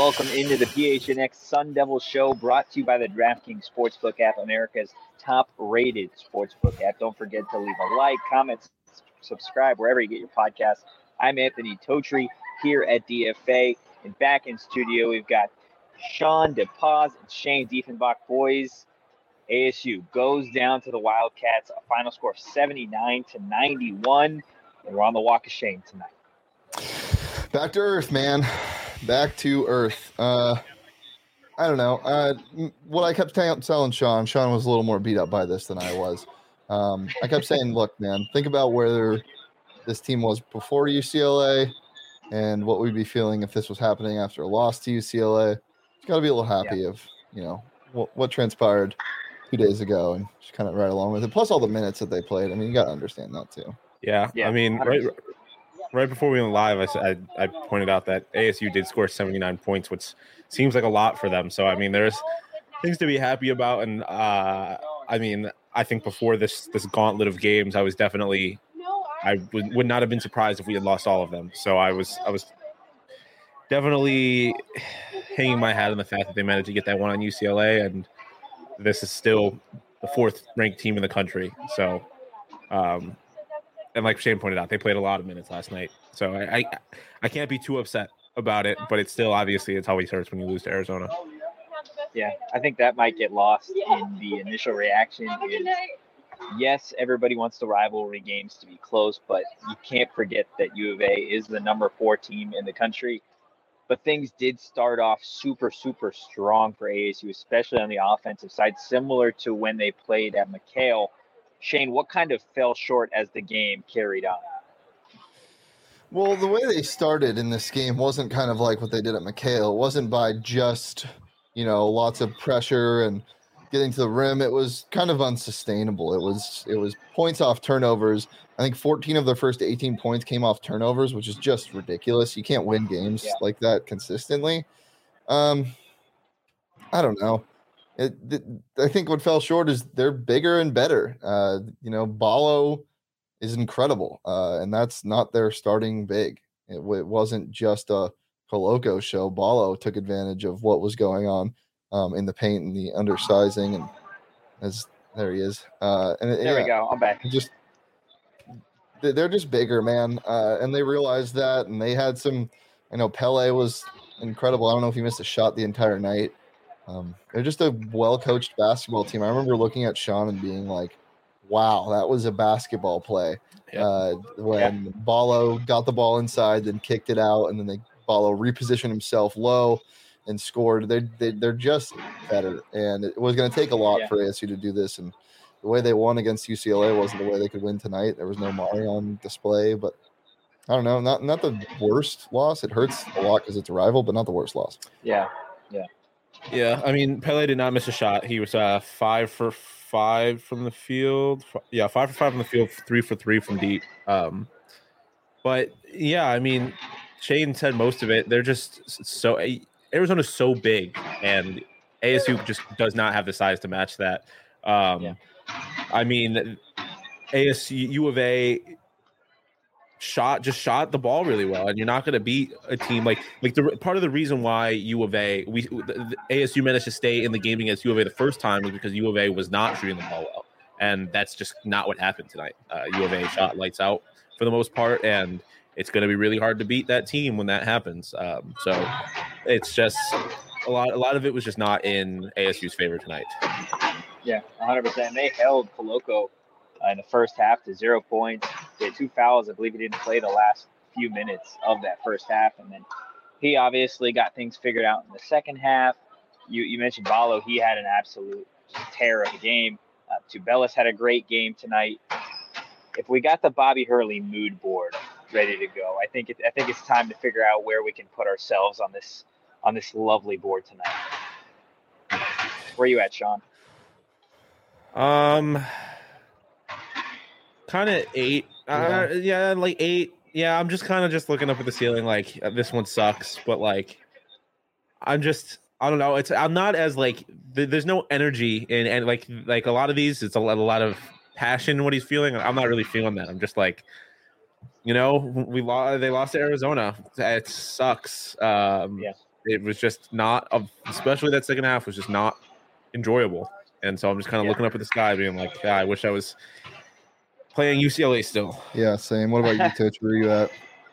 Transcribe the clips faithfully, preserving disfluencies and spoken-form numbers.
welcome into the P H N X Sun Devil Show, brought to you by the DraftKings Sportsbook app, America's top-rated sportsbook app. Don't forget to leave a like, comment, subscribe wherever you get your podcasts. I'm Anthony Totri here at D F A, and back in studio we've got Sean DePaz and Shane Diefenbach. Boys, A S U goes down to the Wildcats, a final score of seventy-nine to ninety-one, and we're on the walk of shame tonight. Back to earth, man. Back to earth. Uh, I don't know. Uh, what I kept t- telling Sean, Sean was a little more beat up by this than I was. Um, I kept saying, look, man, think about where this team was before U C L A and what we'd be feeling if this was happening after a loss to U C L A. Just got to be a little happy yeah. of, you know, what, what transpired two days ago and just kind of right along with it. Plus all the minutes that they played. I mean, you got to understand that too. Yeah. yeah I mean, right, right before we went live, I, said, I I pointed out that A S U did score seventy-nine points, which seems like a lot for them. So, I mean, there's things to be happy about. And, uh, I mean, I think before this this gauntlet of games, I was definitely – I would, would not have been surprised if we had lost all of them. So, I was I was definitely hanging my hat on the fact that they managed to get that one on U C L A, and this is still the fourth-ranked team in the country. So, um and like Shane pointed out, they played a lot of minutes last night. So I, I I can't be too upset about it, but it's still obviously it's always hurts when you lose to Arizona. Yeah, I think that might get lost in the initial reaction. Is, yes, everybody wants the rivalry games to be close, but you can't forget that U of A is the number four team in the country. But things did start off super, super strong for A S U, especially on the offensive side, similar to when they played at McHale. Shane, what kind of fell short as the game carried on? Well, the way they started in this game wasn't kind of like what they did at McHale. It wasn't by just, you know, lots of pressure and getting to the rim. It was kind of unsustainable. It was it was points off turnovers. I think fourteen of their first eighteen points came off turnovers, which is just ridiculous. You can't win games yeah. like that consistently. Um, I don't know. It, it, I think what fell short is they're bigger and better. Uh, you know, Ballo is incredible, uh, and that's not their starting big. It, it wasn't just a Coloco show. Ballo took advantage of what was going on um, in the paint and the undersizing, and as there he is. Uh, and there yeah, we go. I'm back. Just they're just bigger, man, uh, and they realized that, and they had some. I know Pele was incredible. I don't know if he missed a shot the entire night. Um, they're just a well-coached basketball team. I remember looking at Sean and being like, wow, that was a basketball play. Yep. Uh, when yep. Ballo got the ball inside, then kicked it out, and then they Ballo repositioned himself low and scored. They're, they, they're just better, and it was going to take a lot yeah. for A S U to do this. And the way they won against U C L A wasn't the way they could win tonight. There was no Mari on display, but I don't know, not, not the worst loss. It hurts a lot because it's a rival, but not the worst loss. Yeah, yeah. Yeah, I mean, Pele did not miss a shot. He was uh, five for five from the field. Yeah, five for five from the field, three for three from deep. Um, but, yeah, I mean, Shane said most of it. They're just so – Arizona's so big, and A S U just does not have the size to match that. Um, yeah. I mean, A S U, U of A – shot just shot the ball really well, and you're not going to beat a team like like the part of the reason why U of A we the, the A S U managed to stay in the game against U of A the first time was because U of A was not shooting the ball well, and that's just not what happened tonight. uh, U of A shot lights out for the most part, and it's going to be really hard to beat that team when that happens. Um, so it's just a lot a lot of it was just not in A S U's favor tonight. Yeah, one hundred percent. They held Coloco Uh, in the first half to zero points. They had two fouls. I believe he didn't play the last few minutes of that first half. And then he obviously got things figured out in the second half. You you mentioned Ballo. He had an absolute tear of a game. Uh, Tubelis had a great game tonight. If we got the Bobby Hurley mood board ready to go, I think it, I think it's time to figure out where we can put ourselves on this on this lovely board tonight. Where are you at, Sean? Um... Kind of eight. Uh, yeah. yeah, like eight. Yeah, I'm just kind of just looking up at the ceiling like, uh, this one sucks. But, like, I'm just, I don't know. It's I'm not as, like, th- there's no energy. in And, like, like a lot of these, it's a lot, a lot of passion in what he's feeling. I'm not really feeling that. I'm just like, you know, we lost. They lost to Arizona. It sucks. Um, yeah. it was just not, especially that second half was just not enjoyable. And so I'm just kind of Yeah. looking up at the sky, being like, yeah, I wish I was playing U C L A still. Yeah, same. What about you, Titch? Where are you at?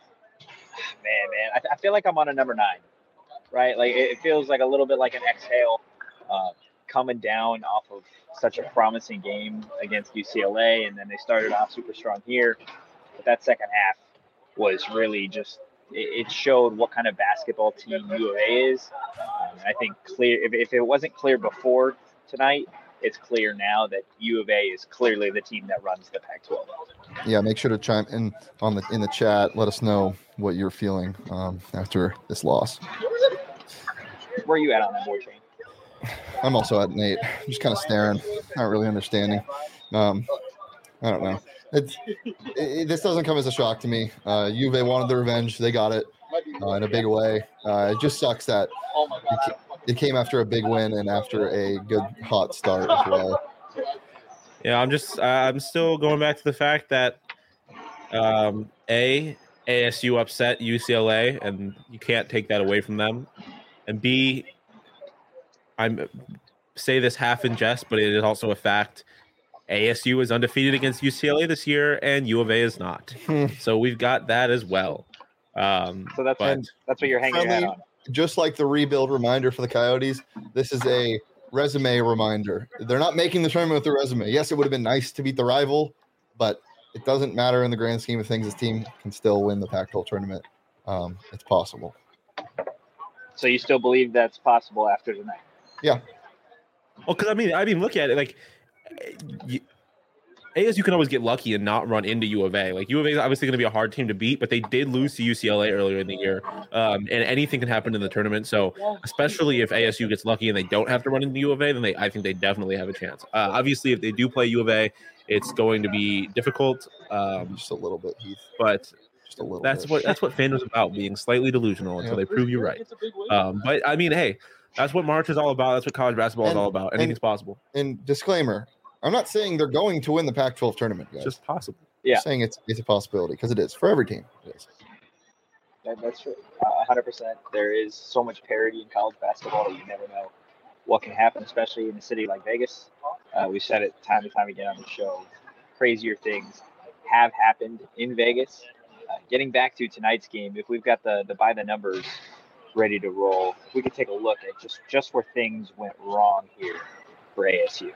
Man, man, I, I feel like I'm on a number nine, right? Like it, it feels like a little bit like an exhale, uh, coming down off of such a promising game against U C L A, and then they started off super strong here. But that second half was really just it, it showed what kind of basketball team U of A is. Um, I think clear if, if it wasn't clear before tonight, it's clear now that U of A is clearly the team that runs the Pac twelve. Yeah, make sure to chime in on the in the chat. Let us know what you're feeling um, after this loss. Where are you at on that, boy, Shane? I'm also at Nate. I'm just kind of staring, not really understanding. Um, I don't know. It's it, it, this doesn't come as a shock to me. Uh, U of A wanted the revenge; they got it uh, in a big way. Uh, it just sucks that it, it came after a big win and after a good hot start as well. Yeah, I'm just uh, I'm still going back to the fact that um, a A S U upset U C L A, and you can't take that away from them. And B, I'm say this half in jest, but it is also a fact. A S U is undefeated against U C L A this year, and U of A is not. So we've got that as well. Um, so that's but, that's what you're hanging your hat on. Just like the rebuild reminder for the Coyotes, this is a resume reminder. They're not making the tournament with the resume. Yes, it would have been nice to beat the rival, but it doesn't matter in the grand scheme of things. This team can still win the Pac twelve tournament. Um, it's possible. So you still believe that's possible after tonight? Yeah. Well, because I mean, I mean, look at it. Like, you, A S U can always get lucky and not run into U of A. Like U of A is obviously going to be a hard team to beat, but they did lose to U C L A earlier in the year, um, and anything can happen in the tournament. So, especially if A S U gets lucky and they don't have to run into U of A, then they, I think they definitely have a chance. Uh, obviously, if they do play U of A, it's going to be difficult. Um, Just a little bit, Heath. But Just a little. that's bit. what that's what fandom's about, being slightly delusional until Yep. they prove you right. Um, but I mean, hey, that's what March is all about. That's what college basketball And- is all about. Anything's and- possible. And disclaimer: I'm not saying they're going to win the Pac twelve tournament, guys. It's just possible. Yeah. I'm saying it's it's a possibility because it is for every team. It is. That, that's true. Uh, one hundred percent. There is so much parity in college basketball that you never know what can happen, especially in a city like Vegas. Uh, we've said it time and time again on the show. Crazier things have happened in Vegas. Uh, getting back to tonight's game, if we've got the, the by the numbers ready to roll, we could take a look at just, just where things went wrong here for A S U.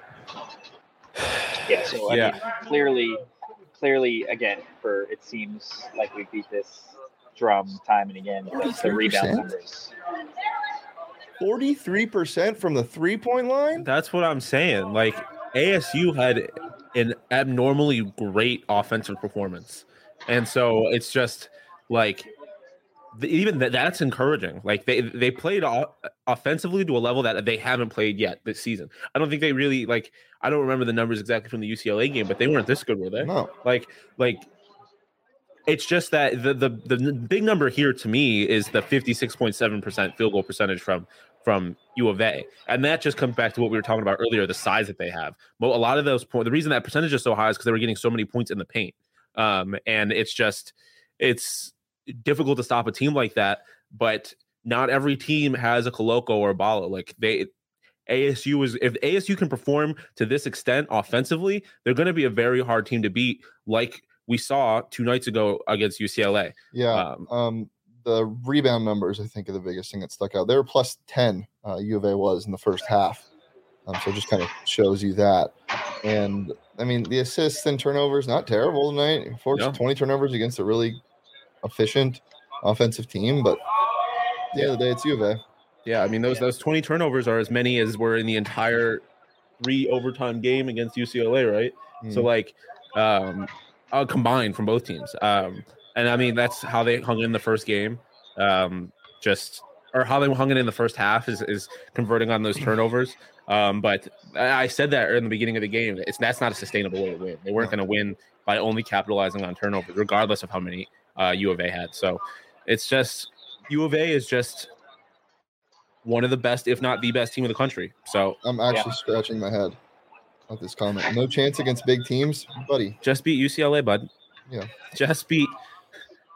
Yeah, so I Yeah. mean, clearly, clearly, again, for it seems like we beat this drum time and again. The, the rebound numbers. forty-three percent from the three-point line? That's what I'm saying. Like A S U had an abnormally great offensive performance, and so it's just like the, even that that's encouraging. Like they they played o- offensively to a level that they haven't played yet this season. I don't think they really like. I don't remember the numbers exactly from the U C L A game, but they weren't this good, were they? No. Like like. It's just that the, the the big number here to me is the fifty-six point seven percent field goal percentage from from U of A, and that just comes back to what we were talking about earlier, the size that they have. Well, a lot of those points, the reason that percentage is so high is because they were getting so many points in the paint, um, and it's just it's difficult to stop a team like that. But not every team has a Koloko or a Balo. Like they, A S U is if A S U can perform to this extent offensively, they're going to be a very hard team to beat. Like we saw two nights ago against U C L A. Yeah. Um, Um, the rebound numbers, I think, are the biggest thing that stuck out. They were plus ten, uh, U of A was in the first half. Um, so it just kind of shows you that. And, I mean, the assists and turnovers, not terrible tonight. Forced Yeah. twenty turnovers against a really efficient offensive team. But at the end of the day, it's U of A. Yeah, I mean those those twenty turnovers are as many as were in the entire three overtime game against U C L A, right? So Mm. like um uh, combined from both teams. Um and I mean that's how they hung in the first game. Um just or how they hung in in the first half is, is converting on those turnovers. Um but I said that in the beginning of the game. It's that's not a sustainable way to win. They weren't going to win by only capitalizing on turnovers, regardless of how many uh, U of A had. So it's just U of A is just one of the best, if not the best team in the country. So I'm actually scratching my head at this comment. No chance against big teams, buddy. just beat U C L A, bud. Yeah. Just beat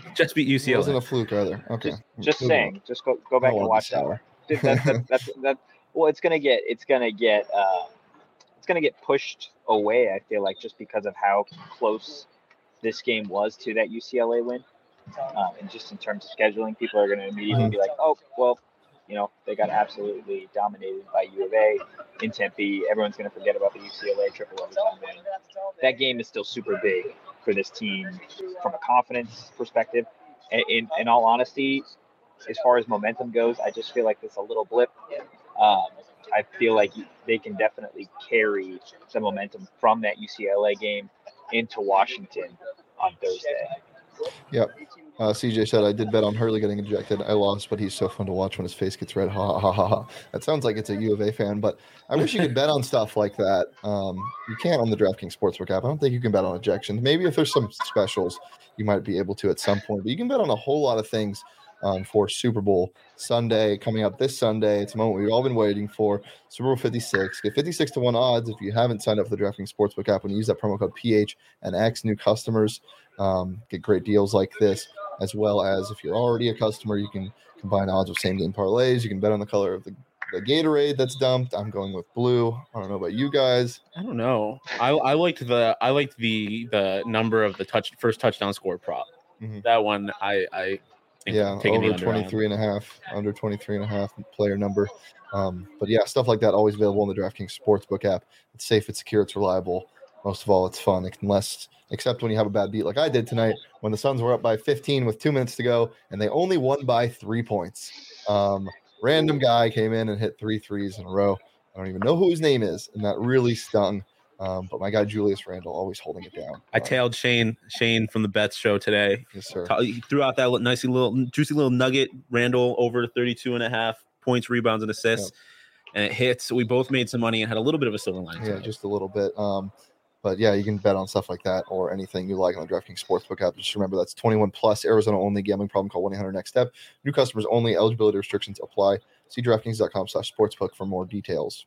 Just beat It U C L A. wasn't a fluke either. Okay. Just, just Move saying. on. Just go go back I don't and wanna be watch that. sour. Dude, That, that, that's that. Well, it's gonna get it's gonna get uh, it's gonna get pushed away. I feel like just because of how close this game was to that U C L A win, um, and just in terms of scheduling, people are gonna immediately Mhm. be like, oh, well, you know, they got absolutely dominated by U of A in Tempe. Everyone's gonna forget about the U C L A triple overtime win. That game is still super big for this team from a confidence perspective. In, in, in all honesty, as far as momentum goes, I just feel like it's a little blip. Um, I feel like they can definitely carry the momentum from that U C L A game into Washington on Thursday. Yep. Uh, C J said, I did bet on Hurley getting ejected. I lost, but he's so fun to watch when his face gets red. Ha ha ha ha. That sounds like it's a U of A fan, but I wish you could bet on stuff like that. Um, you can't on the DraftKings Sportsbook app. I don't think you can bet on ejections. Maybe if there's some specials, you might be able to at some point, but you can bet on a whole lot of things um, for Super Bowl Sunday coming up this Sunday. It's a moment we've all been waiting for. Super Bowl fifty-six. Get fifty-six to one odds if you haven't signed up for the DraftKings Sportsbook app. When you use that promo code P H and X, new customers um, get great deals like this, as well as if you're already a customer, you can combine odds with same game parlays. You can bet on the color of the, the Gatorade that's dumped. I'm going with blue. I don't know about you guys. I don't know. I I liked the I liked the the number of the touch first touchdown score prop. Mhm. That one I I think Yeah, I'm taking the over under on. twenty-three and a half, under twenty-three and a half player number. Um, but yeah, stuff like that always available in the DraftKings Sportsbook app. It's safe, it's secure, it's reliable. Most of all, it's fun, unless except when you have a bad beat like I did tonight when the Suns were up by fifteen with two minutes to go and they only won by three points. Um, random guy came in and hit three threes in a row. I don't even know who his name is, and that really stung. Um, but my guy Julius Randle always holding it down. I Um, tailed Shane Shane from the Bets show today. yes, sir. He threw out that nice little juicy little nugget. Randall over thirty-two and a half points, rebounds, and assists, and it hits. We both made some money and had a little bit of a silver lining. Yeah, today. just a little bit. Um, but yeah, you can bet on stuff like that or anything you like on the DraftKings Sportsbook app. Just remember that's twenty-one plus, Arizona only, gambling problem, call one eight hundred next step. New customers only, eligibility restrictions apply. See DraftKings.com slash sportsbook for more details.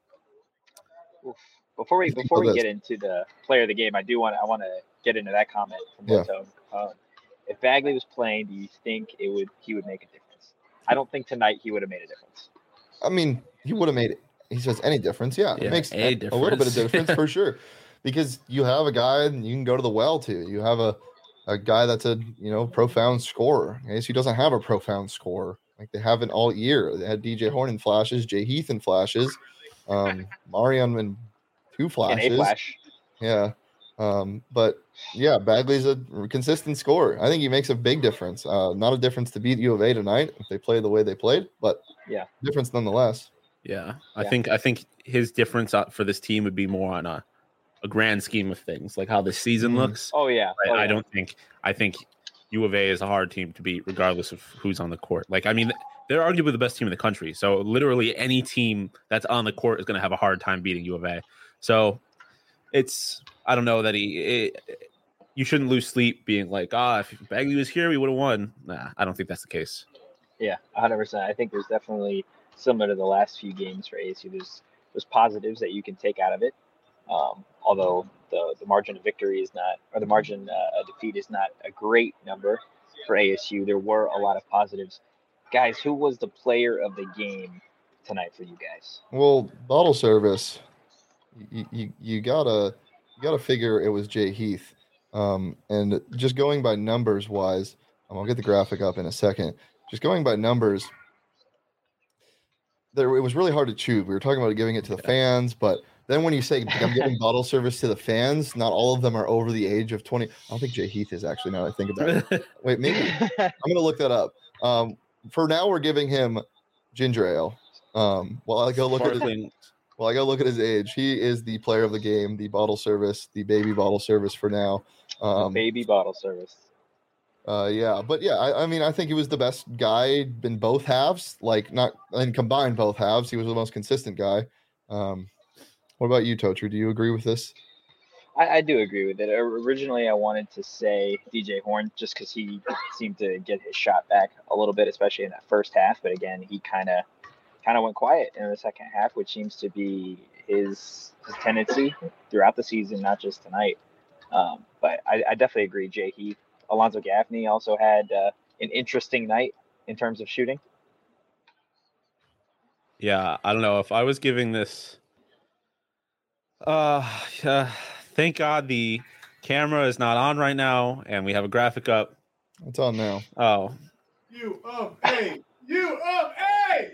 Oof. Before we You think before we about this. get into the player of the game, I do want I want to get into that comment from Yeah. Moto. Um, if Bagley was playing, do you think it would he would make a difference? I don't think tonight he would have made a difference. I mean, he would have made it. He says any difference. Yeah, Yeah, it makes a a, a little bit of difference. difference for sure. Because you have a guy and you can go to the well to. You have a, a guy that's a you know profound scorer. A S U doesn't have a profound scorer like they haven't all year. They had D J Horn in flashes, Jay Heath in flashes, um, Marion in two An flashes. A flash. Yeah. Um, but yeah, Bagley's a consistent scorer. I think he makes a big difference. Uh, not a difference to beat U of A tonight if they play the way they played, but Yeah. difference nonetheless. Yeah, I Yeah. think I think his difference out for this team would be more on a, a grand scheme of things, like how the season Mhm. looks. Oh yeah. I, Oh, I yeah. don't think I think U of A is a hard team to beat, regardless of who's on the court. Like, I mean, they're arguably the best team in the country. So literally any team that's on the court is going to have a hard time beating U of A. So it's I don't know that he. It, you shouldn't lose sleep being like, ah, if Bagley was here, we would have won. Nah, I don't think that's the case. Yeah, one hundred percent. I think there's definitely similar to the last few games for A S U. There's there's positives that you can take out of it. Um, although the, the margin of victory is not, or the margin uh, of defeat is not a great number for A S U. There were a lot of positives. Guys, who was the player of the game tonight for you guys? Well, bottle service, you, you, you gotta you gotta figure it was Jay Heath. Um, and just going by numbers wise, um, I'll get the graphic up in a second. Just going by numbers, there it was really hard to choose. We were talking about giving it to the fans, but then when you say I'm giving bottle service to the fans, not all of them are over the age of twenty. I don't think Jay Heath is actually. Now that I think about it, wait, maybe I'm gonna look that up. Um, for now, we're giving him ginger ale. Um, while I go look at his, Sparkling. well, I go look at his age. He is the player of the game, the bottle service, the baby bottle service for now. Um, Baby bottle service. uh, yeah, but yeah, I, I mean, I think he was the best guy in both halves. Like not and combined both halves, he was the most consistent guy. Um, what about you, Tocher? Do you agree with this? I, I do agree with it. Originally, I wanted to say D J Horn just because he seemed to get his shot back a little bit, especially in that first half. But again, he kind of kind of went quiet in the second half, which seems to be his, his tendency throughout the season, not just tonight. Um, but I, I definitely agree. Jay Heath Alonzo Gaffney also had uh, an interesting night in terms of shooting. Yeah, I don't know if I was giving this. Uh, uh, thank God the camera is not on right now, and we have a graphic up. It's on now. Oh, U of A, U of A.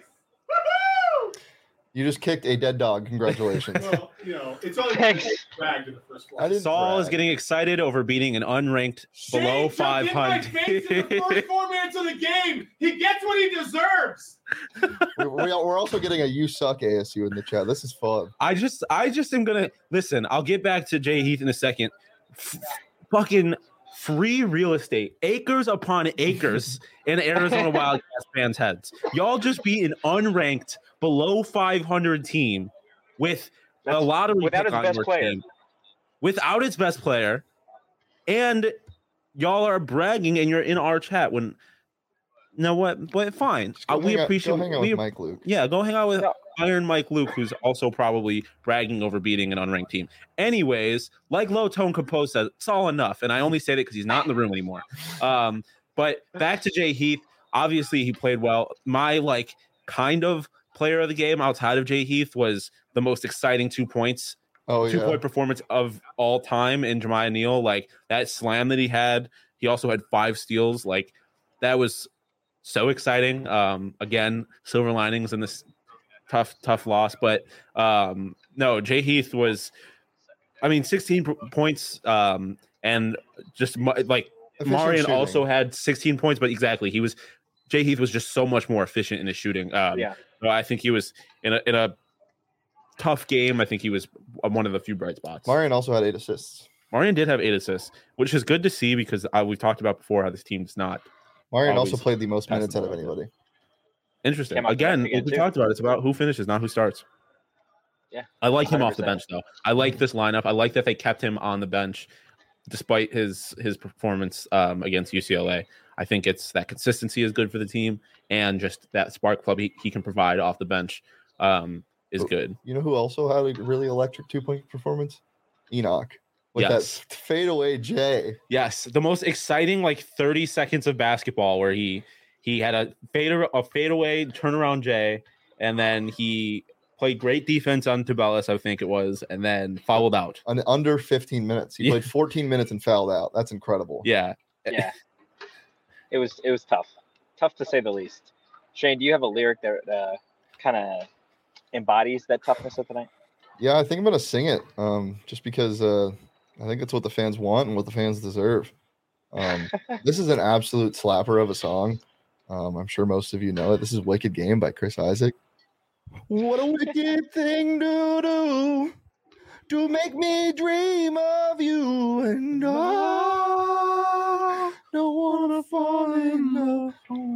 Woohoo! You just kicked a dead dog. Congratulations. Well, you know, it's only Thanks. dragged in the first I place. didn't Saul is brag. getting excited over beating an unranked below Shane five jumped in my face in the first hundred. four minutes of the game. He gets what he deserves. We're, we're also getting a "you suck" A S U in the chat. This is fun. I just, I just am gonna listen. I'll get back to Jay Heath in a second. F- fucking free real estate, acres upon acres in Arizona Wildcats fans' heads. Y'all just beat an unranked below five hundred team with a That's lot of without its best player. without its best player, and y'all are bragging, and you're in our chat when. No, what? But fine. Just go Uh, we hang out- appreciate. Go hang out we, with Mike Luke. Yeah, go hang out with No. Iron Mike Luke, who's also probably bragging over beating an unranked team. Anyways, like Low Tone Compose says, it's all enough. And I only say that because he's not in the room anymore. Um, but back to Jay Heath. Obviously, he played well. My like kind of player of the game outside of Jay Heath was the most exciting two points, Oh two yeah. point performance of all time in Jemiah Neal. Like that slam that he had. He also had five steals. Like that was so exciting. Um, again, silver linings in this tough, tough loss. But um, no, Jay Heath was, I mean, sixteen p- points um, and just mu- like Efficient Marion shooting. also had sixteen points, but exactly, he was, Jay Heath was just so much more efficient in his shooting. Um, Yeah. so I think he was in a, in a tough game. I think he was one of the few bright spots. Marion also had eight assists. Marion did have eight assists, which is good to see because uh, we've talked about before how this team's not Marion Always also played the most pass minutes the out of ball. anybody. interesting. Came off the Again, bench again, like we too. talked about, it's about who finishes, not who starts. Yeah. I like him off the one hundred bench though. I like this lineup. I like that they kept him on the bench despite his his performance um, against U C L A. I think it's that consistency is good for the team, and just that spark plug he, he can provide off the bench um, is Oh, good. You know who also had a really electric two point performance? Enoch. With Yes. that fadeaway J. Yes, the most exciting like thirty seconds of basketball where he he had a fade a fadeaway turnaround J, and then he played great defense on Tubelis, I think it was, and then fouled out. Un- under fifteen minutes. He Yeah. played fourteen minutes and fouled out. That's incredible. Yeah, Yeah. It was it was tough. Tough to say the least. Shane, do you have a lyric that uh, kind of embodies that toughness of the night? Yeah, I think I'm gonna sing it. Um, just because uh, I think it's what the fans want and what the fans deserve. Um, this is an absolute slapper of a song. Um, I'm sure most of you know it. This is "Wicked Game" by Chris Isaac. What a wicked thing to do to make me dream of you, and I don't wanna fall in love.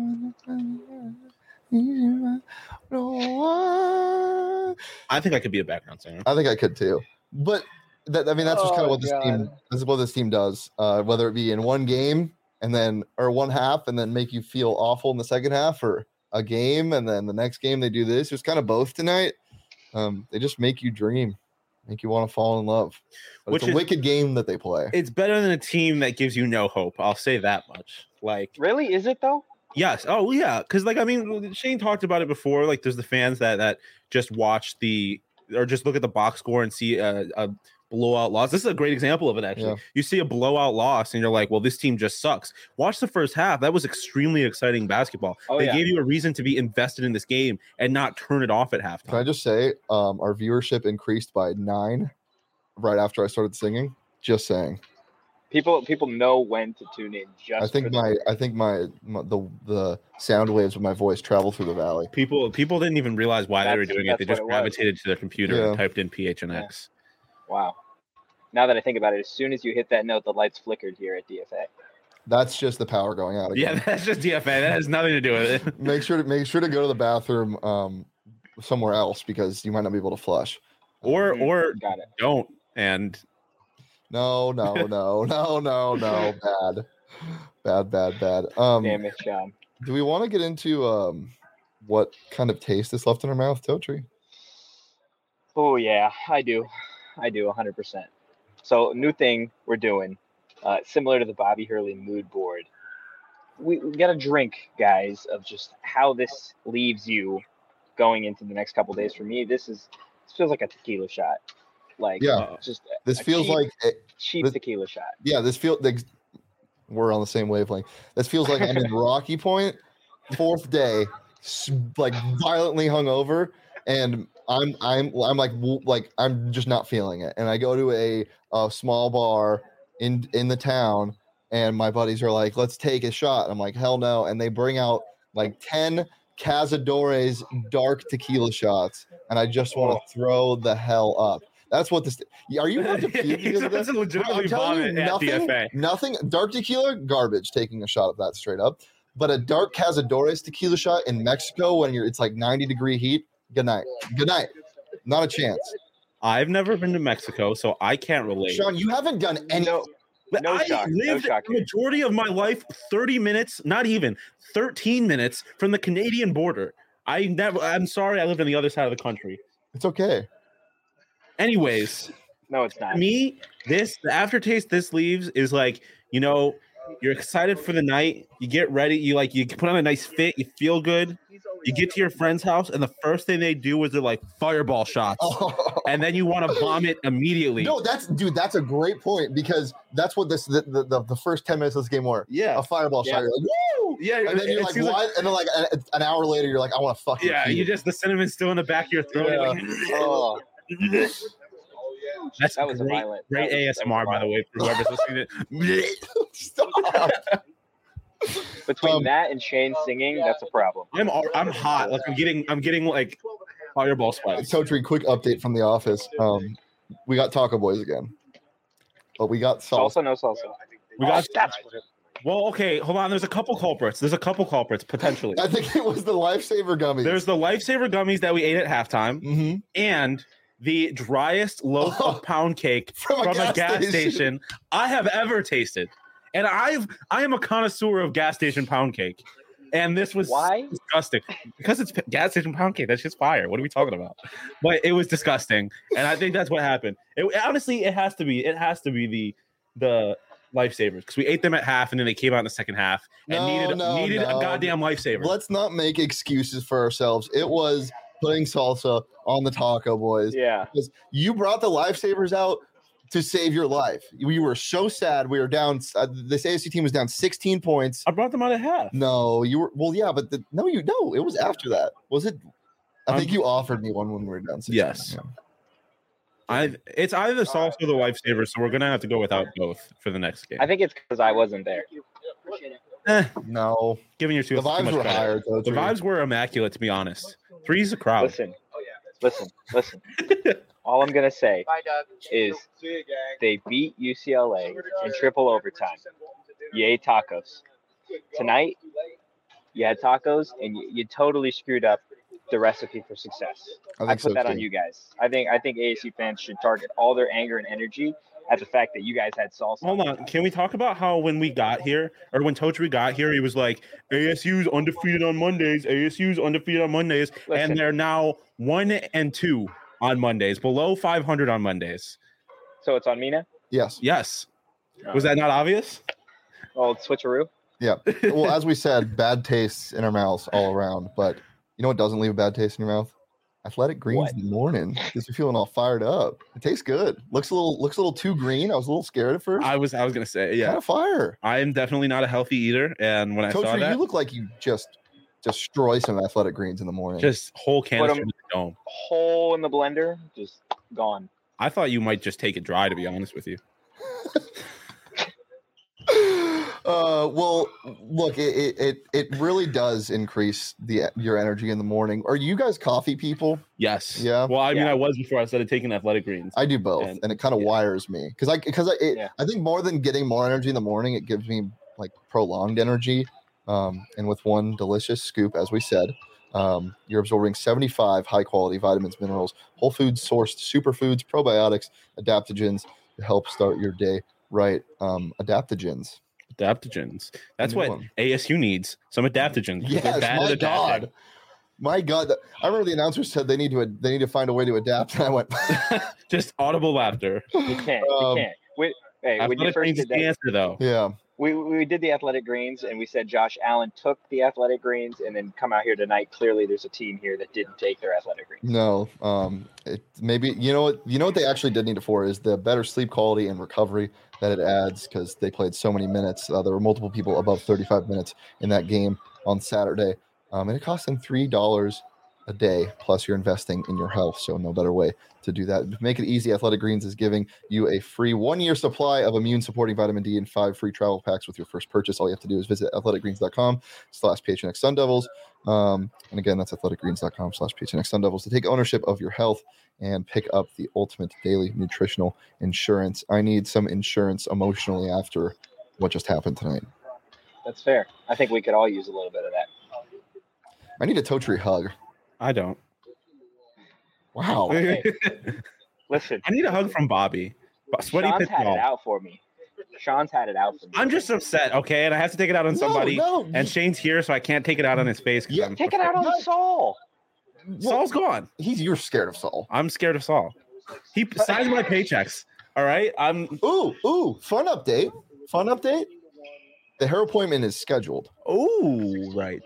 No, I think I could be a background singer. I think I could too. But that, I mean, that's just kind of Oh, what this team. God. This is what this team does. Uh, whether it be in one game and then or one half and then make you feel awful in the second half, or a game and then the next game they do this. It's kind of both tonight. Um, they just make you dream, make you want to fall in love. But Which it's a is- wicked game that they play. It's better than a team that gives you no hope. I'll say that much. Like, Really? Is it though? yes. Oh, yeah. Because, like, I mean, Shane talked about it before. Like, there's the fans that that just watch the or just look at the box score and see a, a blowout loss. This is a great example of it, actually. Yeah. You see a blowout loss and you're like, well, this team just sucks. Watch the first half. That was extremely exciting basketball. Oh, they yeah. gave you a reason to be invested in this game and not turn it off at Can I halftime. just say, um, our viewership increased by nine right after I started singing. Just saying. People people know when to tune in. Just I think for my, the- I think my, my the the sound waves of my voice travel through the valley. People people didn't even realize why they were That's- doing it. They that's just what it was. gravitated to their computer Yeah. and typed in P H N X. wow. Now that I think about it, as soon as you hit that note, the lights flickered here at D F A. That's just the power going out again. Yeah, that's just D F A. That has nothing to do with it. make sure to make sure to go to the bathroom um somewhere else because you might not be able to flush. Or Mhm. or Got it. don't. And No, no, no, no, no, no. Bad. Bad, bad, bad. Um Damn it, Sean. do we want to get into um what kind of taste is left in our mouth, Totri? Oh yeah, I do. I do one hundred percent. So new thing we're doing uh, similar to the Bobby Hurley mood board. We, we got a drink, guys, of just how this leaves you going into the next couple days. For me, this is this feels like a tequila shot. Like, Yeah. just This a feels cheap, like it, cheap this- tequila shot. yeah, this feels like we're on the same wavelength. This feels like I'm in Rocky Point, fourth day, s- like violently hungover, and I'm I'm I'm like w- like I'm just not feeling it. And I go to a, a small bar in in the town, and my buddies are like, "Let's take a shot." I'm like, "Hell no!" And they bring out like ten Cazadores dark tequila shots, and I just want to throw the hell up. That's what this. Are you about to puke because of That's this? a legitimately I'm telling you, vomit at nothing, D F A. nothing. Dark tequila, garbage. Taking a shot of that straight up, but a dark Cazadores tequila shot in Mexico when you're it's like ninety degree heat. Good night. Good night. Not a chance. I've never been to Mexico, so I can't relate. Sean, you haven't done any. No, But No I shock, no lived shock the here. majority of my life thirty minutes, not even thirteen minutes from the Canadian border. I never. I'm sorry, I lived on the other side of the country. It's okay. Anyways, no, it's to not. me, this the aftertaste this leaves is like, you know, you're excited for the night. You get ready. You like you put on a nice fit. You feel good. You get to your friend's house, and the first thing they do is they're like fireball shots, Oh. and then you want to vomit immediately. No, that's dude. That's a great point because that's what this the the, the, the first ten minutes of this game were. Yeah, A fireball Yeah. shot. You're like, woo! yeah, And then you're it like, seems what? And then like an, an hour later, you're like, I want to fucking. Yeah, you just the cinnamon's still in the back of your throat. You're like, Oh, That's that was a great, violent. great that was- A S M R, that was by the way, for whoever's listening. To Stop. Between Um, that and Shane singing, that's a problem. I'm al- I'm hot. Like I'm getting I'm getting like fireball spikes. Totri, quick update from the office. Um, we got Taco Boys again, but we got salsa. Salsa, no salsa. We got Oh, that's what it, well, okay, hold on. There's a couple culprits. There's a couple culprits potentially. I think it was the Lifesaver gummies. There's the Lifesaver gummies that we ate at halftime, Mhm. and the driest loaf Oh, of pound cake from a from gas a gas station. station I have ever tasted. And I've I am a connoisseur of gas station pound cake. And this was Why? disgusting because it's p- gas station pound cake. That's just fire. What are we talking about? But it was disgusting, and I think that's what happened. It, honestly, it has to be. It has to be the the Lifesavers because we ate them at half, and then they came out in the second half and No, needed no, needed no. a goddamn Lifesaver. Let's not make excuses for ourselves. It was putting salsa on the Taco Boys. yeah. Because you brought the Lifesavers out to save your life. We were so sad. We were down. Uh, this A S U team was down sixteen points. I brought them out at half. No, you were. Well, yeah, but the, no, you no. It was after that. Was it? I Um, think you offered me one when we were down sixteen. Yes. Yeah. I it's either the salsa or the Lifesaver, so we're gonna have to go without both for the next game. I think it's because I wasn't there. Eh, No, giving your two the too vibes much were credit. higher. Though, The too. vibes were immaculate, to be honest. Three's a crowd. Listen, listen, listen. All I'm gonna say is they beat U C L A in triple overtime. Yay tacos! Tonight, you had tacos, and you, you totally screwed up the recipe for success. I I, think put so, that on too. you guys. I think I think A S U fans should target all their anger and energy at the fact that you guys had salsa. Hold on. Can we talk about how when we got here, or when Totri got here, he was like, A S U's undefeated on Mondays, A S U's undefeated on Mondays, Listen. and they're now one and two on Mondays, below five hundred on Mondays. So it's on me now. Yes. Yes. Was that not obvious? Oh, switcheroo. Yeah. Well, as we said, bad tastes in our mouths all around. But you know what doesn't leave a bad taste in your mouth? Athletic greens What? in the morning. Gets you feeling all fired up. It tastes good. Looks a little looks a little too green. I was a little scared at first. I was I was gonna say, Kind yeah. of fire. I am definitely not a healthy eater, and when I Coach, saw you that, look like you just destroy some athletic greens in the morning. just whole canister them- in the dome. Hole in the blender, just gone. I thought you might just take it dry, to be honest with you. uh well look it, it it it really does increase the your energy in the morning. Are you guys coffee people? Yes. Yeah. Well, I mean, Yeah. I was before I started taking athletic greens. I do both, And- and, it kind of yeah. wires me because I because I it, Yeah. I think more than getting more energy in the morning, it gives me like prolonged energy. Um, and with one delicious scoop, as we said, um, you're absorbing seventy-five high quality vitamins, minerals, whole foods sourced superfoods, probiotics, adaptogens to help start your day right. Um, adaptogens. Adaptogens. That's new what one. A S U needs. Some adaptogens. because they're Yes, bad my at adapting. God. My God, I remember the announcer said they need to they need to find a way to adapt, and I went, Just audible laughter. You can't. Um, you can't. Wait, Hey, when you Athletic first Greens did is the that, answer, though. Yeah. we we did the Athletic Greens, and we said Josh Allen took the Athletic Greens, and then come out here tonight. Clearly, there's a team here that didn't take their Athletic Greens. No. Um. It maybe you know what you know what they actually did need it for is the better sleep quality and recovery that it adds because they played so many minutes. Uh, there were multiple people above thirty-five minutes in that game on Saturday, um, and it cost them three dollars a day. Plus, you're investing in your health, so no better way to do that. To make it easy, Athletic Greens is giving you a free one-year supply of immune-supporting vitamin D and five free travel packs with your first purchase. All you have to do is visit athleticgreens.com slash PHNX Sun Devils. Um, and again, that's athleticgreens.com slash PHNX Sun Devils to take ownership of your health and pick up the ultimate daily nutritional insurance. I need some insurance emotionally after what just happened tonight. That's fair. I think we could all use a little bit of that. I need a toe tree hug. I don't. Wow. Hey, listen, I need a hug from Bobby. Sweaty Sean's pit had ball. it out for me. Sean's had it out for me. I'm just upset, okay, and I have to take it out on No, somebody. no. And Shane's here, so I can't take it out on his face. 'cause Yeah, I'm Take it out on No. Saul. Saul's gone. He's you're scared of Saul. I'm scared of Saul. He signs my paychecks. All right. I'm. Ooh, ooh, fun update. Fun update. The hair appointment is scheduled. Oh, right.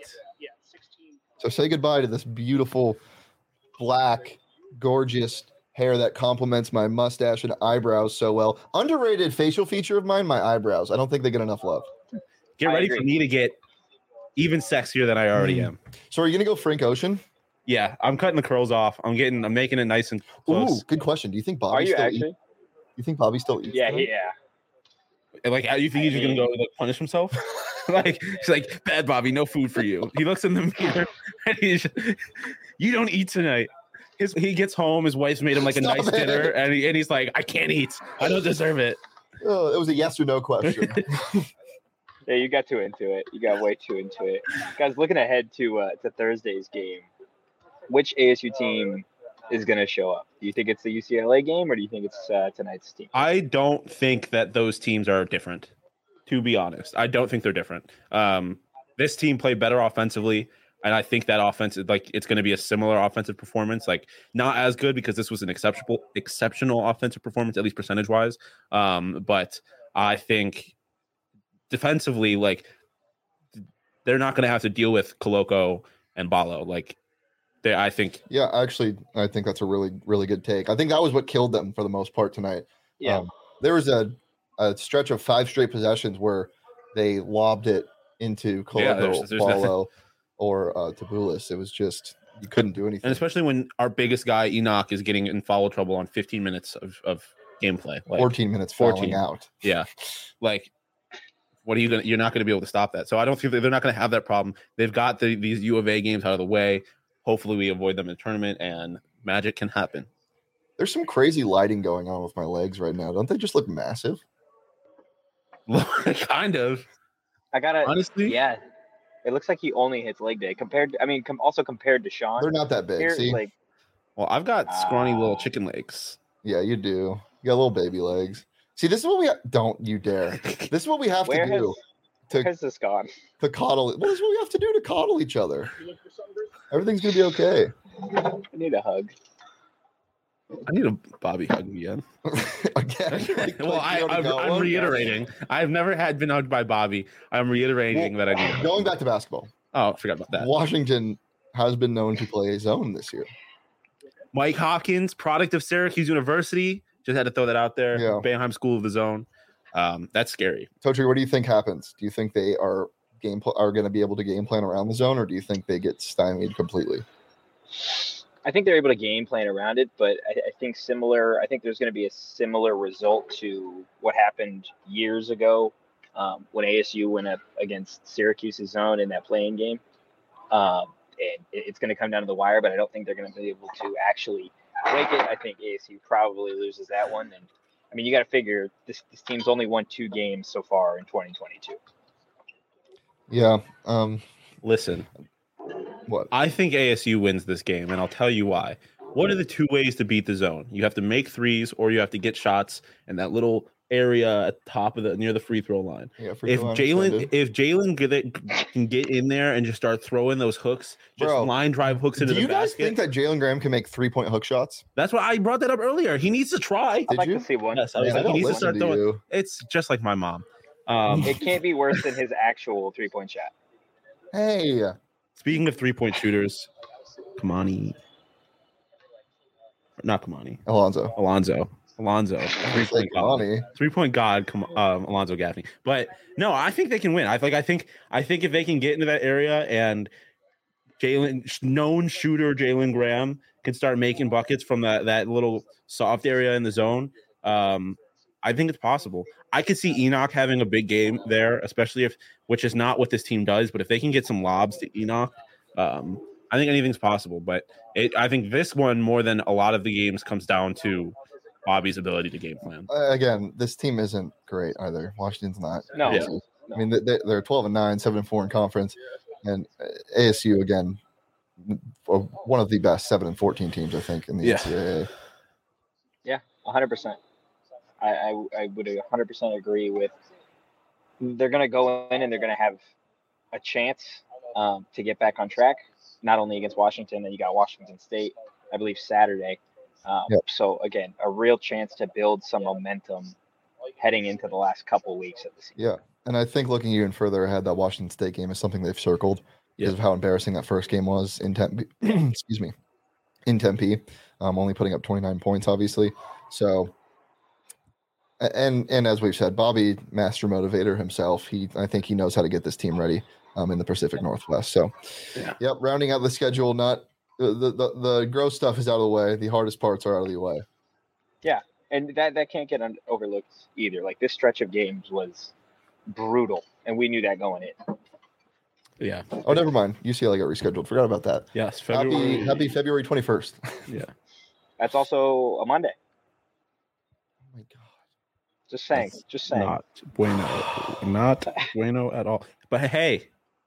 So say goodbye to this beautiful, black, gorgeous hair that complements my mustache and eyebrows so well. Underrated facial feature of mine, my eyebrows. I don't think they get enough love. Get I ready agree. for me to get even sexier than I already Mm. am. So are you gonna go Frank Ocean? Yeah, I'm cutting the curls off. I'm getting. I'm making it nice and close. Ooh, good question. Do you think Bobby Are you still actually? eats? You think Bobby still eats? Yeah, tonight? yeah. And, like, you think he's just gonna go like punish himself? Like he's like, bad Bobby, no food for you. He looks in the mirror and he's, you don't eat tonight. His, he gets home, his wife's made him like a Stop nice it. dinner, and, he, and he's like, I can't eat. I don't deserve it. Oh, it was a yes or no question. Yeah, you got too into it. You got way too into it. Guys, looking ahead to uh, to Thursday's game, which A S U team is going to show up? Do you think it's the U C L A game, or do you think it's uh, tonight's team? I don't think that those teams are different, to be honest. I don't think they're different. Um, this team played better offensively, and I think that offense is like it's going to be a similar offensive performance. Like not as good because this was an exceptional exceptional offensive performance, at least percentage wise. Um, but I think defensively, like they're not going to have to deal with Koloko and Balo. Like they, I think. Yeah, actually, I think that's a really, really good take. I think that was what killed them for the most part tonight. Yeah. Um, there was a, a stretch of five straight possessions where they lobbed it into Yeah, Koloko, there's- there's Balo, or uh, Tabulis. It was just you couldn't do anything. And especially when our biggest guy Enoch is getting in foul trouble on fifteen minutes of, of gameplay. Like, fourteen minutes fourteen. fouling out. Yeah. Like, what are you going to, you're not going to be able to stop that. So I don't think that they're not going to have that problem. They've got the, these U of A games out of the way. Hopefully we avoid them in the tournament and magic can happen. There's some crazy lighting going on with my legs right now. Don't they just look massive? Kind of. I gotta. Honestly, Yeah, it looks like he only hits leg day compared. To, I mean, com- also compared to Sean. They're not that big. Here, See? like Well, I've got scrawny little Ah. chicken legs. Yeah, you do. You got little baby legs. See, this is what we ha- don't you dare. This is what we have where to has do where to, has this gone? to coddle. Well, this is what we have to do to coddle each other. Everything's gonna be okay. I need a hug. I need a Bobby hug again. Again. like- well, like I, you already I'm, got I'm one. reiterating. I've never had been hugged by Bobby. I'm reiterating Well, that I need. A Going back to basketball, Oh, I forgot about that. Washington has been known to play zone this year. Mike Hopkins, product of Syracuse University. Just had to throw that out there. Yeah. Boeheim School of the Zone. Um, that's scary. Totri, what do you think happens? Do you think they are game pl- are going to be able to game plan around the zone, or do you think they get stymied completely? I think they're able to game plan around it, but I, I think similar. I think there's going to be a similar result to what happened years ago um, when A S U went up against Syracuse's zone in that playing game. Um, and it, it's going to come down to the wire, but I don't think they're going to be able to actually break it. I think A S U probably loses that one. And I mean, you got to figure this this team's only won two games so far in twenty twenty-two. Yeah. Um. Listen, What? I think A S U wins this game, and I'll tell you why. What are the two ways to beat the zone? You have to make threes, or you have to get shots, and that little area at the top of the near the free throw line. Yeah, free If throw line Jalen extended. if Jalen get- can get in there and just start throwing those hooks, just Bro, line drive hooks into Do the you guys basket. think that Jalen Graham can make three point hook shots? That's why I brought that up earlier. He needs to try. I'd Did like you? to see one. Yes, I was Man, like, I don't he needs to listen start to throwing. you. It's just like my mom. Um, It can't be worse than his actual three point shot. Hey, speaking of three point shooters, Kamani, not Kamani, Alonzo. Alonzo, Alonzo, three point god, Kamani. three point god, Kam- um, Alonzo Gaffney. But no, I think they can win. I think I think I think if they can get into that area and Jalen, known shooter Jalen Graham can start making buckets from that that little soft area in the zone. Um, I think it's possible. I could see Enoch having a big game there, especially if, which is not what this team does, but if they can get some lobs to Enoch, um, I think anything's possible. But it, I think this one, more than a lot of the games, comes down to Bobby's ability to game plan. Uh, again, this team isn't great either. Washington's not. No. Yeah. I mean, they, they're twelve and nine, seven and four in conference, and A S U again, one of the best seven and fourteen teams, I think, in the Yeah. N C double A. Yeah, one hundred percent. I, I, I would one hundred percent agree with. They're going to go in and they're going to have a chance um, to get back on track, not only against Washington, and you got Washington State, I believe, Saturday. Um, Yep. So, again, a real chance to build some momentum heading into the last couple weeks of the season. Yeah, and I think looking even further ahead, that Washington State game is something they've circled because Yeah. of how embarrassing that first game was in Tempe. excuse me, in Tempe, um, only putting up twenty-nine points, obviously. So, a- and and as we've said, Bobby, master motivator himself, he I think he knows how to get this team ready um, in the Pacific Northwest. So, Yeah. yep, rounding out the schedule, not the the the, the gross stuff is out of the way. The hardest parts are out of the way. And that, that can't get un- overlooked either. Like, this stretch of games was brutal, and we knew that going in. Yeah. Oh, never mind. U C L A got rescheduled. Forgot about that. Yes. February. Happy happy February twenty-first. Yeah. That's also a Monday. Oh my god. Just saying. That's Just saying. Not bueno. Not bueno at all. But hey,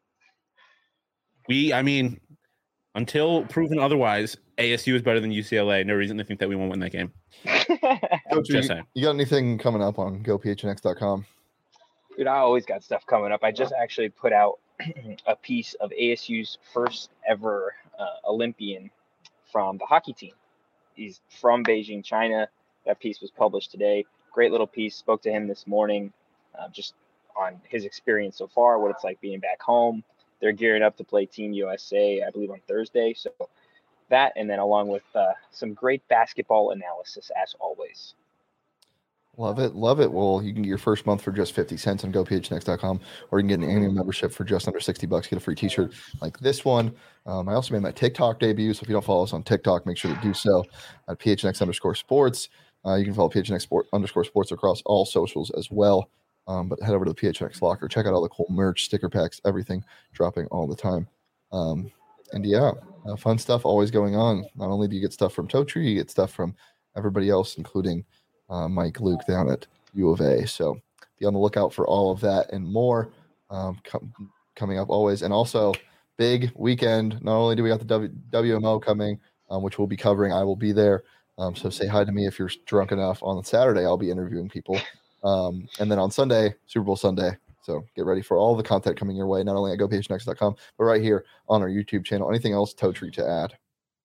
we, I mean, until proven otherwise, A S U is better than U C L A. No reason to think that we won't win that game. Coach, Just you, saying. you got anything coming up on go p h n x dot com? Dude, I always got stuff coming up. I just actually put out a piece of A S U's first ever uh, Olympian from the hockey team. He's from Beijing, China. That piece was published today. Great little piece. Spoke to him this morning, uh, just on his experience so far, what it's like being back home. They're gearing up to play Team U S A, I believe, on Thursday. So that, and then along with uh, some great basketball analysis, as always. Love it, love it. Well, you can get your first month for just fifty cents on go p h n x dot com, or you can get an annual membership for just under sixty bucks. Get a free T-shirt like this one. Um, I also made my TikTok debut, so if you don't follow us on TikTok, make sure to do so at P H N X underscore sports. Uh, you can follow P H N X sport underscore sports across all socials as well. Um, but head over to the P H N X locker, check out all the cool merch, sticker packs, everything dropping all the time. Um, and yeah, uh, fun stuff always going on. Not only do you get stuff from Toe Tree, you get stuff from everybody else, including uh, Mike Luke down at U of A. So be on the lookout for all of that and more um, com- coming up always. And also, big weekend. Not only do we got the w- W M O coming, um, which we'll be covering, I will be there. Um, so say hi to me if you're drunk enough. On Saturday, I'll be interviewing people. Um, and then on Sunday, Super Bowl Sunday. So get ready for all the content coming your way, not only at go p h n x dot com, but right here on our YouTube channel. Anything else, Toe Tree, to add?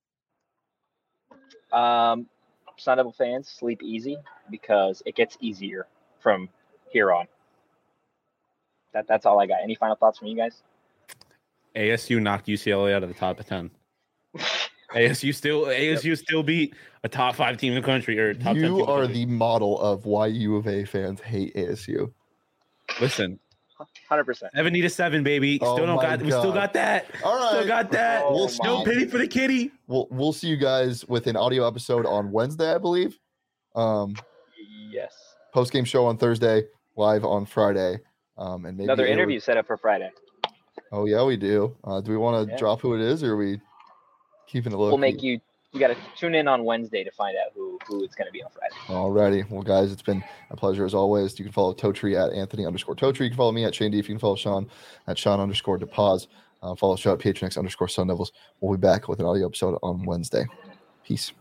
Um, Sun Devil fans, sleep easy because it gets easier from here on. That That's all I got. Any final thoughts from you guys? A S U knocked U C L A out of the top ten. A S U still A S U still beat a top five team in the country or top ten team in You the are country. the model of why U of A fans hate A S U. Listen, one hundred percent. seventy to seven, baby. Oh Still don't my got. We still God. got that. All right. Still got that. Oh We'll No my. pity for the kitty. We'll we'll see you guys with an audio episode on Wednesday, I believe. Um, Yes. post game show on Thursday, live on Friday. Um, and maybe Another air- interview set up for Friday. Oh yeah, we do. Uh, do we want to Yeah. drop who it is, or are we keeping it low? We'll make you. You got to tune in on Wednesday to find out who who it's going to be on Friday. Alrighty. Well, guys, it's been a pleasure as always. You can follow Toe Tree at Anthony underscore Toe Tree. You can follow me at Shane D. If you can follow Sean at Sean underscore DePaz. Uh, follow the show at P H N X underscore Sun Devils. We'll be back with an audio episode on Wednesday. Peace.